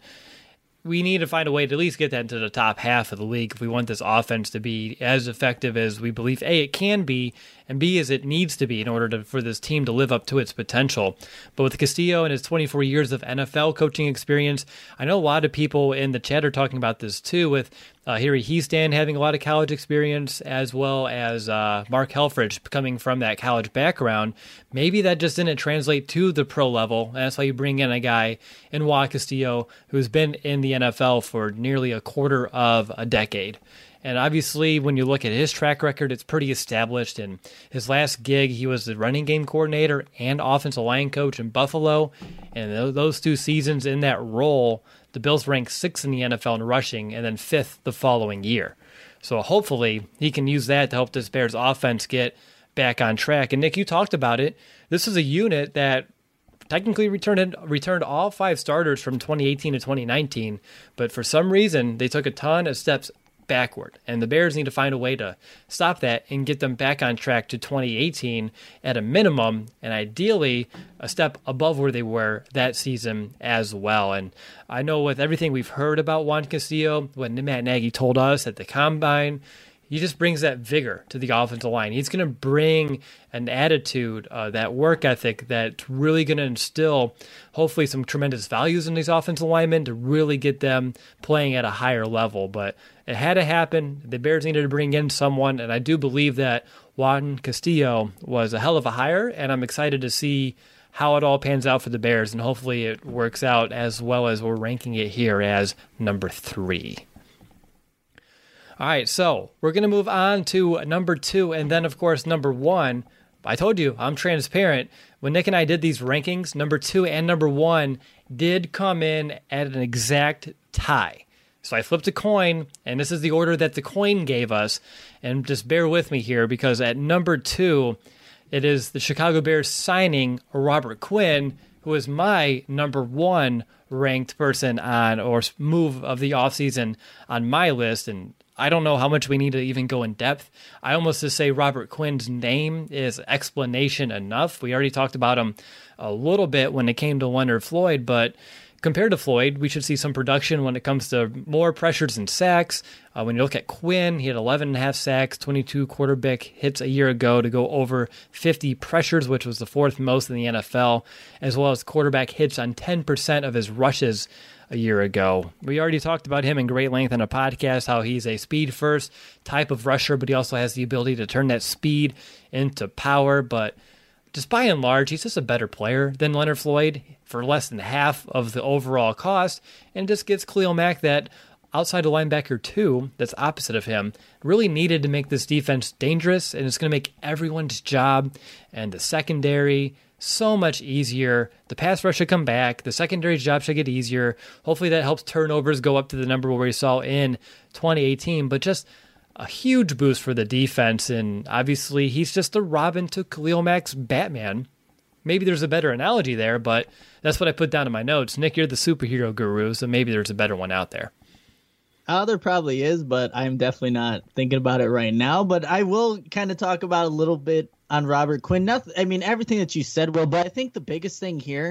We need to find a way to at least get that into the top half of the league if we want this offense to be as effective as we believe, A, it can be, and B, as it needs to be in order to, for this team to live up to its potential. But with Castillo and his twenty-four years of N F L coaching experience, I know a lot of people in the chat are talking about this too, with uh, Harry Hiestand having a lot of college experience, as well as uh, Mark Helfrich coming from that college background. Maybe that just didn't translate to the pro level, and that's why you bring in a guy in Juan Castillo who's been in the N F L for nearly a quarter of a decade. And obviously, when you look at his track record, it's pretty established. In his last gig, he was the running game coordinator and offensive line coach in Buffalo. And those two seasons in that role, the Bills ranked sixth in the N F L in rushing and then fifth the following year. So hopefully, he can use that to help this Bears offense get back on track. And Nick, you talked about it. This is a unit that technically returned returned all five starters from twenty eighteen to twenty nineteen, but for some reason, they took a ton of steps backward, and the Bears need to find a way to stop that and get them back on track to twenty eighteen at a minimum, and ideally a step above where they were that season as well. And I know with everything we've heard about Juan Castillo, what Matt Nagy told us at the Combine, he just brings that vigor to the offensive line. He's going to bring an attitude, uh, that work ethic that's really going to instill hopefully some tremendous values in these offensive linemen to really get them playing at a higher level. But it had to happen. The Bears needed to bring in someone, and I do believe that Juan Castillo was a hell of a hire, and I'm excited to see how it all pans out for the Bears, and hopefully it works out as well as we're ranking it here as number three. All right, so we're going to move on to number two, and then, of course, number one. I told you, I'm transparent. When Nick and I did these rankings, number two and number one did come in at an exact tie. So I flipped a coin, and this is the order that the coin gave us. And just bear with me here, because at number two, it is the Chicago Bears signing Robert Quinn, who is my number one ranked person on, or move of the offseason on my list. And I don't know how much we need to even go in depth. I almost just say Robert Quinn's name is explanation enough. We already talked about him a little bit when it came to Leonard Floyd, but compared to Floyd, we should see some production when it comes to more pressures and sacks. Uh, when you look at Quinn, he had eleven and a half sacks, twenty-two quarterback hits a year ago to go over fifty pressures, which was the fourth most in the N F L, as well as quarterback hits on ten percent of his rushes a year ago. We already talked about him in great length on a podcast, how he's a speed-first type of rusher, but he also has the ability to turn that speed into power. But just by and large, he's just a better player than Leonard Floyd for less than half of the overall cost, and just gets Khalil Mack, that outside of linebacker two that's opposite of him, really needed to make this defense dangerous, and it's going to make everyone's job and the secondary so much easier. The pass rush should come back. The secondary job should get easier. Hopefully that helps turnovers go up to the number where we saw in twenty eighteen, but just a huge boost for the defense. And obviously he's just the Robin to Khalil Mack's Batman. Maybe there's a better analogy there, but that's what I put down in my notes. Nick, you're the superhero guru, so maybe there's a better one out there. Oh, there probably is, but I'm definitely not thinking about it right now. But I will kind of talk about a little bit on Robert Quinn. Nothing, I mean, everything that you said, Will, but I think the biggest thing here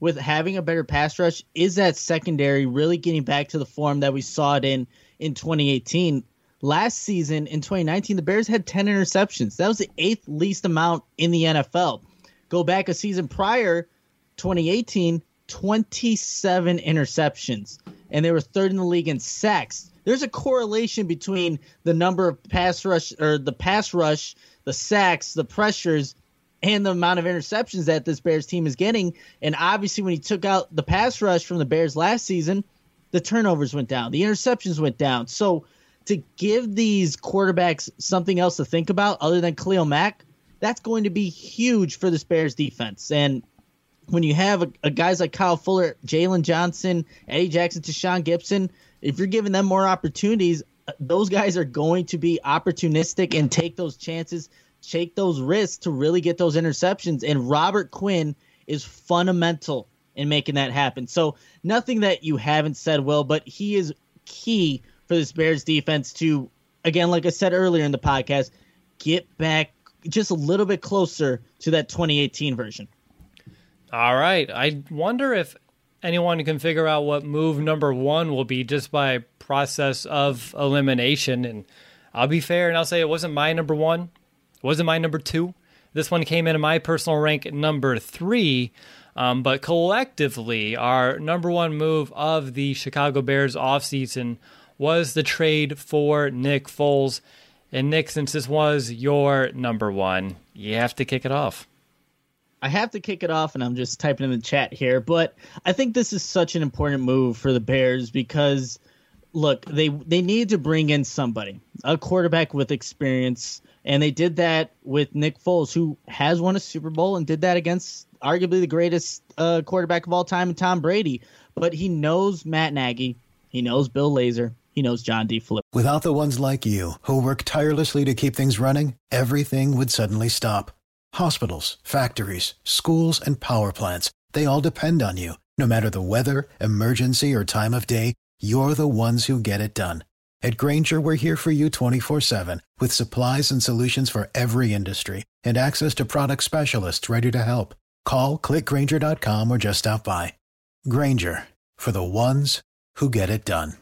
with having a better pass rush is that secondary really getting back to the form that we saw it in in twenty eighteen. Last season, in twenty nineteen, the Bears had ten interceptions. That was the eighth least amount in the N F L. Go back a season prior, twenty eighteen, twenty-seven interceptions. And they were third in the league in sacks. There's a correlation between the number of pass rush, or the pass rush, the sacks, the pressures, and the amount of interceptions that this Bears team is getting. And obviously, when he took out the pass rush from the Bears last season, the turnovers went down. The interceptions went down. So to give these quarterbacks something else to think about other than Khalil Mack, that's going to be huge for this Bears defense. And when you have a, a guys like Kyle Fuller, Jalen Johnson, Eddie Jackson, Tashawn Gibson, if you're giving them more opportunities, those guys are going to be opportunistic and take those chances, take those risks to really get those interceptions. And Robert Quinn is fundamental in making that happen. So nothing that you haven't said, Will, but he is key for this Bears defense to, again, like I said earlier in the podcast, get back just a little bit closer to that twenty eighteen version. All right. I wonder if anyone can figure out what move number one will be just by process of elimination. And I'll be fair and I'll say it wasn't my number one. It wasn't my number two. This one came in my personal rank at number three. Um, but collectively, our number one move of the Chicago Bears offseason was the trade for Nick Foles. And Nick, since this was your number one, you have to kick it off. I have to kick it off, and I'm just typing in the chat here. But I think this is such an important move for the Bears because, look, they they need to bring in somebody, a quarterback with experience. And they did that with Nick Foles, who has won a Super Bowl and did that against arguably the greatest uh, quarterback of all time, Tom Brady. But he knows Matt Nagy. He knows Bill Lazor. He knows John D. Flip. Without the ones like you, who work tirelessly to keep things running, everything would suddenly stop. Hospitals, factories, schools, and power plants, they all depend on you. No matter the weather, emergency, or time of day, you're the ones who get it done. At Grainger, we're here for you twenty-four seven with supplies and solutions for every industry and access to product specialists ready to help. Call, click Grainger dot com, or just stop by. Grainger, for the ones who get it done.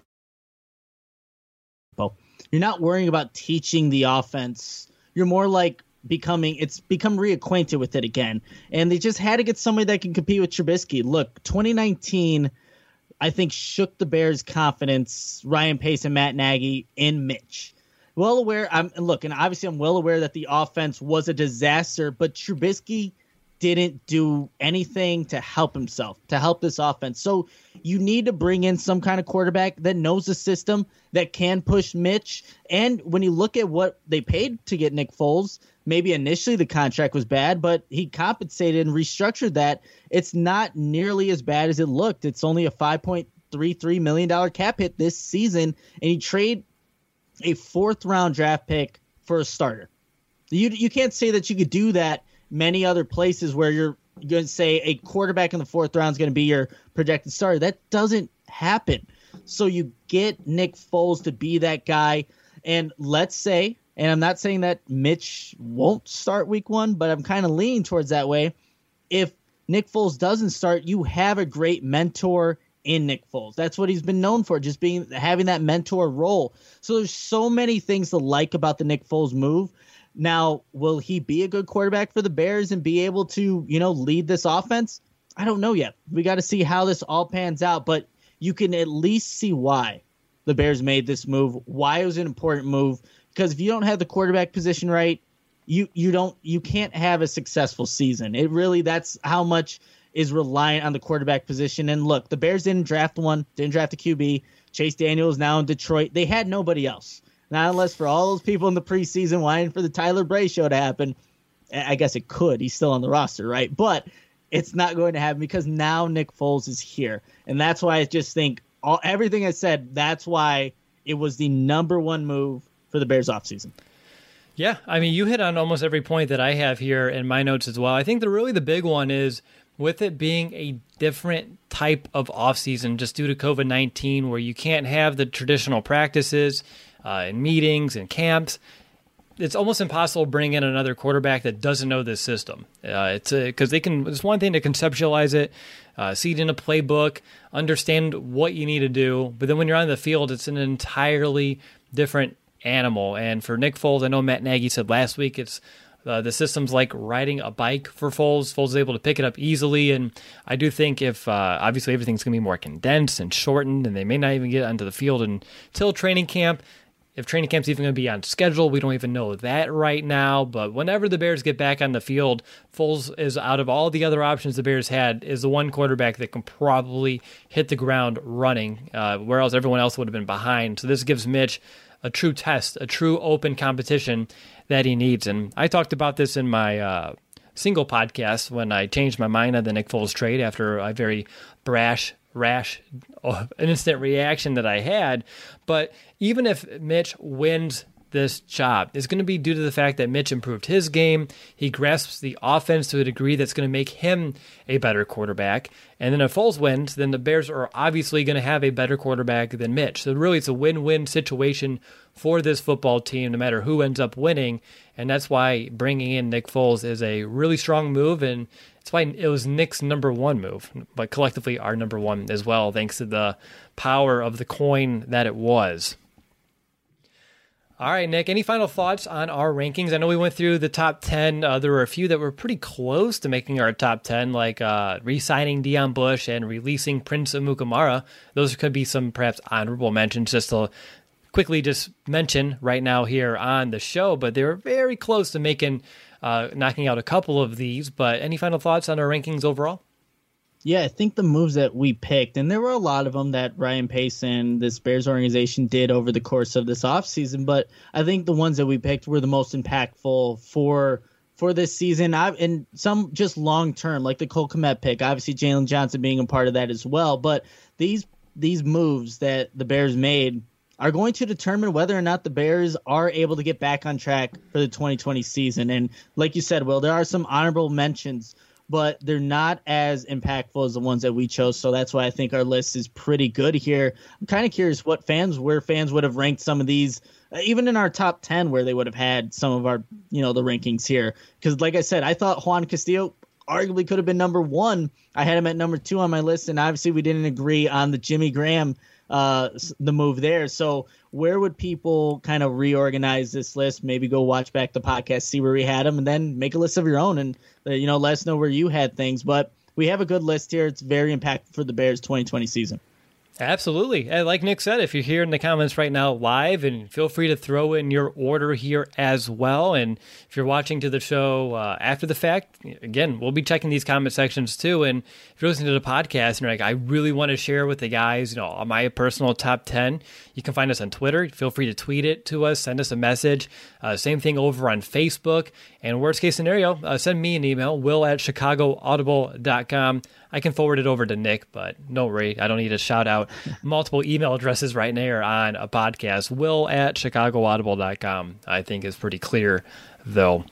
You're not worrying about teaching the offense. You're more like becoming, it's become reacquainted with it again. And they just had to get somebody that can compete with Trubisky. Look, twenty nineteen, I think, shook the Bears' confidence, Ryan Pace and Matt Nagy, in Mitch. Well aware, I'm look, and obviously I'm well aware that the offense was a disaster, but Trubisky didn't do anything to help himself, to help this offense. So you need to bring in some kind of quarterback that knows the system, that can push Mitch. And when you look at what they paid to get Nick Foles, maybe initially the contract was bad, but he compensated and restructured that. It's not nearly as bad as it looked. It's only a five point three three million dollars cap hit this season, and he trade a fourth round draft pick for a starter. You you can't say that you could do that many other places where you're going to say a quarterback in the fourth round is going to be your projected starter. That doesn't happen. So you get Nick Foles to be that guy. And let's say, and I'm not saying that Mitch won't start week one, but I'm kind of leaning towards that way. If Nick Foles doesn't start, you have a great mentor in Nick Foles. That's what he's been known for, just being having that mentor role. So there's so many things to like about the Nick Foles move. Now, will he be a good quarterback for the Bears and be able to, you know, lead this offense? I don't know yet. We got to see how this all pans out, but you can at least see why the Bears made this move, why it was an important move, because if you don't have the quarterback position right, you you don't you can't have a successful season. It really, that's how much is reliant on the quarterback position. And look, the Bears didn't draft one, didn't draft a Q B. Chase Daniel is now in Detroit. They had nobody else. Not unless for all those people in the preseason whining for the Tyler Bray show to happen. I guess it could. He's still on the roster, right? But it's not going to happen because now Nick Foles is here. And that's why I just think all, everything I said, that's why it was the number one move for the Bears offseason. Yeah, I mean, you hit on almost every point that I have here in my notes as well. I think the really the big one is with it being a different type of offseason just due to COVID nineteen where you can't have the traditional practices uh, and meetings and camps. it's almost impossible to bring in another quarterback that doesn't know this system. Uh, it's because they can. It's one thing to conceptualize it, uh, see it in a playbook, understand what you need to do, but then when you're on the field, it's an entirely different animal. And for Nick Foles, I know Matt Nagy said last week, it's uh, the system's like riding a bike for Foles. Foles is able to pick it up easily, and I do think if uh, obviously everything's going to be more condensed and shortened, and they may not even get onto the field until training camp. If training camp's even going to be on schedule, we don't even know that right now. But whenever the Bears get back on the field, Foles is, out of all the other options the Bears had, is the one quarterback that can probably hit the ground running, uh, whereas everyone else would have been behind. So this gives Mitch a true test, a true open competition that he needs. And I talked about this in my uh, single podcast when I changed my mind on the Nick Foles trade after a very brash rash oh, instant reaction that I had. But even if Mitch wins this job, it's going to be due to the fact that Mitch improved his game. He grasps the offense to a degree that's going to make him a better quarterback. And then if Foles wins, then the Bears are obviously going to have a better quarterback than Mitch. So really it's a win-win situation for this football team, no matter who ends up winning. And that's why bringing in Nick Foles is a really strong move, and it's why it was Nick's number one move, but collectively our number one as well, thanks to the power of the coin that it was. All right, Nick, any final thoughts on our rankings? I know we went through the top ten. Uh, there were a few that were pretty close to making our top ten, like uh, re-signing Deion Bush and releasing Prince Amukamara. Those could be some perhaps honorable mentions just to quickly just mention right now here on the show, but they were very close to making uh, knocking out a couple of these. But any final thoughts on our rankings overall? Yeah, I think the moves that we picked, and there were a lot of them that Ryan Pace and this Bears organization did over the course of this offseason, but I think the ones that we picked were the most impactful for for this season, I, and some just long-term, like the Cole Kmet pick, obviously Jalen Johnson being a part of that as well. But these these moves that the Bears made are going to determine whether or not the Bears are able to get back on track for the twenty twenty season. And like you said, Will, there are some honorable mentions, but they're not as impactful as the ones that we chose. So that's why I think our list is pretty good here. I'm kind of curious what fans, where fans would have ranked some of these, uh, even in our top ten, where they would have had some of our, you know, the rankings here. Because like I said, I thought Juan Castillo arguably could have been number one. I had him at number two on my list, and obviously we didn't agree on the Jimmy Graham, uh, the move there. So where would people kind of reorganize this list? Maybe go watch back the podcast, see where we had them, and then make a list of your own and, uh, you know, let us know where you had things. But we have a good list here. It's very impactful for the Bears twenty twenty season. Absolutely. And like Nick said, if you're here in the comments right now live, and feel free to throw in your order here as well. And if you're watching to the show uh, after the fact, again, we'll be checking these comment sections too. And if you're listening to the podcast and you're like, I really want to share with the guys, you know, my personal top ten, you can find us on Twitter. Feel free to tweet it to us, send us a message. Uh, same thing over on Facebook. And worst case scenario, uh, send me an email, will at chicago audible dot com. I can forward it over to Nick, but no worry, I don't need to shout out multiple email addresses right now on a podcast. Will at chicago audible dot com, I think, is pretty clear, though.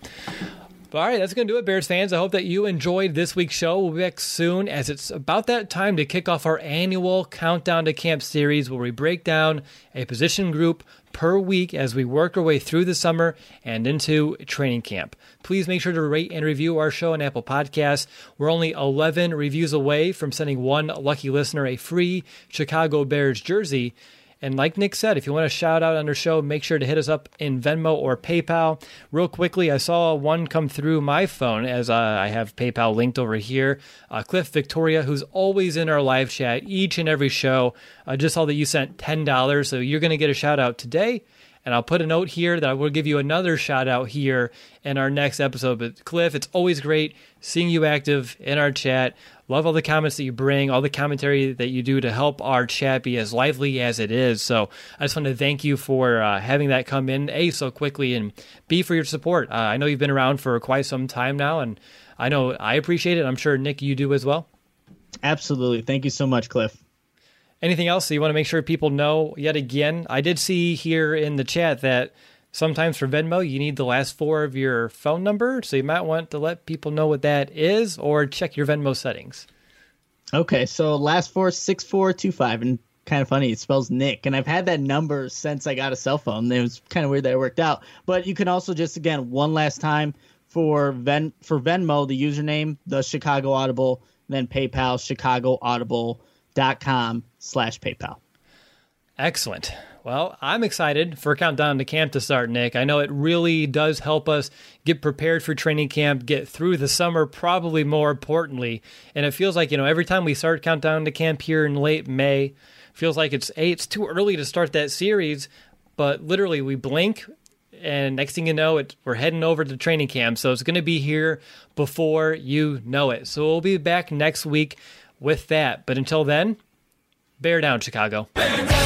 All right, that's going to do it, Bears fans. I hope that you enjoyed this week's show. We'll be back soon, as it's about that time to kick off our annual Countdown to Camp series, where we break down a position group per week as we work our way through the summer and into training camp. Please make sure to rate and review our show on Apple Podcasts. We're only eleven reviews away from sending one lucky listener a free Chicago Bears jersey. And like Nick said, if you want to shout out on our show, make sure to hit us up in Venmo or PayPal. Real quickly, I saw one come through my phone as uh, I have PayPal linked over here. Uh, Cliff Victoria, who's always in our live chat each and every show, uh, just saw that you sent ten dollars, so you're going to get a shout out today. And I'll put a note here that I will give you another shout out here in our next episode. But Cliff, it's always great seeing you active in our chat. Love all the comments that you bring, all the commentary that you do to help our chat be as lively as it is. So I just want to thank you for uh, having that come in, A, so quickly, and B, for your support. Uh, I know you've been around for quite some time now, and I know I appreciate it. I'm sure, Nick, you do as well. Absolutely. Thank you so much, Cliff. Anything else that you want to make sure people know yet again? I did see here in the chat that sometimes for Venmo, you need the last four of your phone number, so you might want to let people know what that is, or check your Venmo settings. Okay, so last four, six four two five, and kind of funny. It spells Nick. And I've had that number since I got a cell phone. It was kind of weird that it worked out. But you can also just, again, one last time for Ven for Venmo, the username, the Chicago Audible, then PayPal, chicago audible dot com slash PayPal. Excellent. Well, I'm excited for Countdown to Camp to start, Nick. I know it really does help us get prepared for training camp, get through the summer, probably more importantly. And it feels like, you know, every time we start Countdown to Camp here in late May, feels like it's, hey, it's too early to start that series, but literally we blink, and next thing you know, it, we're heading over to training camp. So it's going to be here before you know it. So we'll be back next week with that. But until then, bear down, Chicago. Bear down!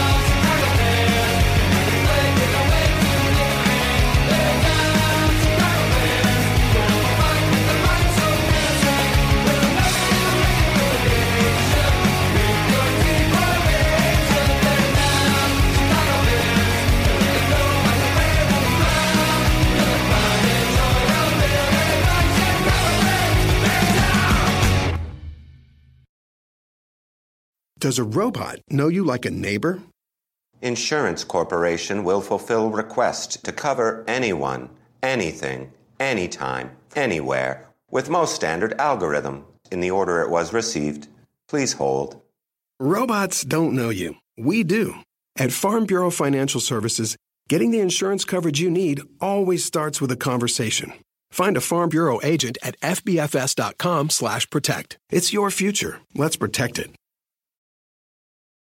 Does a robot know you like a neighbor? Insurance Corporation will fulfill request to cover anyone, anything, anytime, anywhere, with most standard algorithm in the order it was received. Please hold. Robots don't know you. We do. At Farm Bureau Financial Services, getting the insurance coverage you need always starts with a conversation. Find a Farm Bureau agent at f b f s dot com slash protect. It's your future. Let's protect it.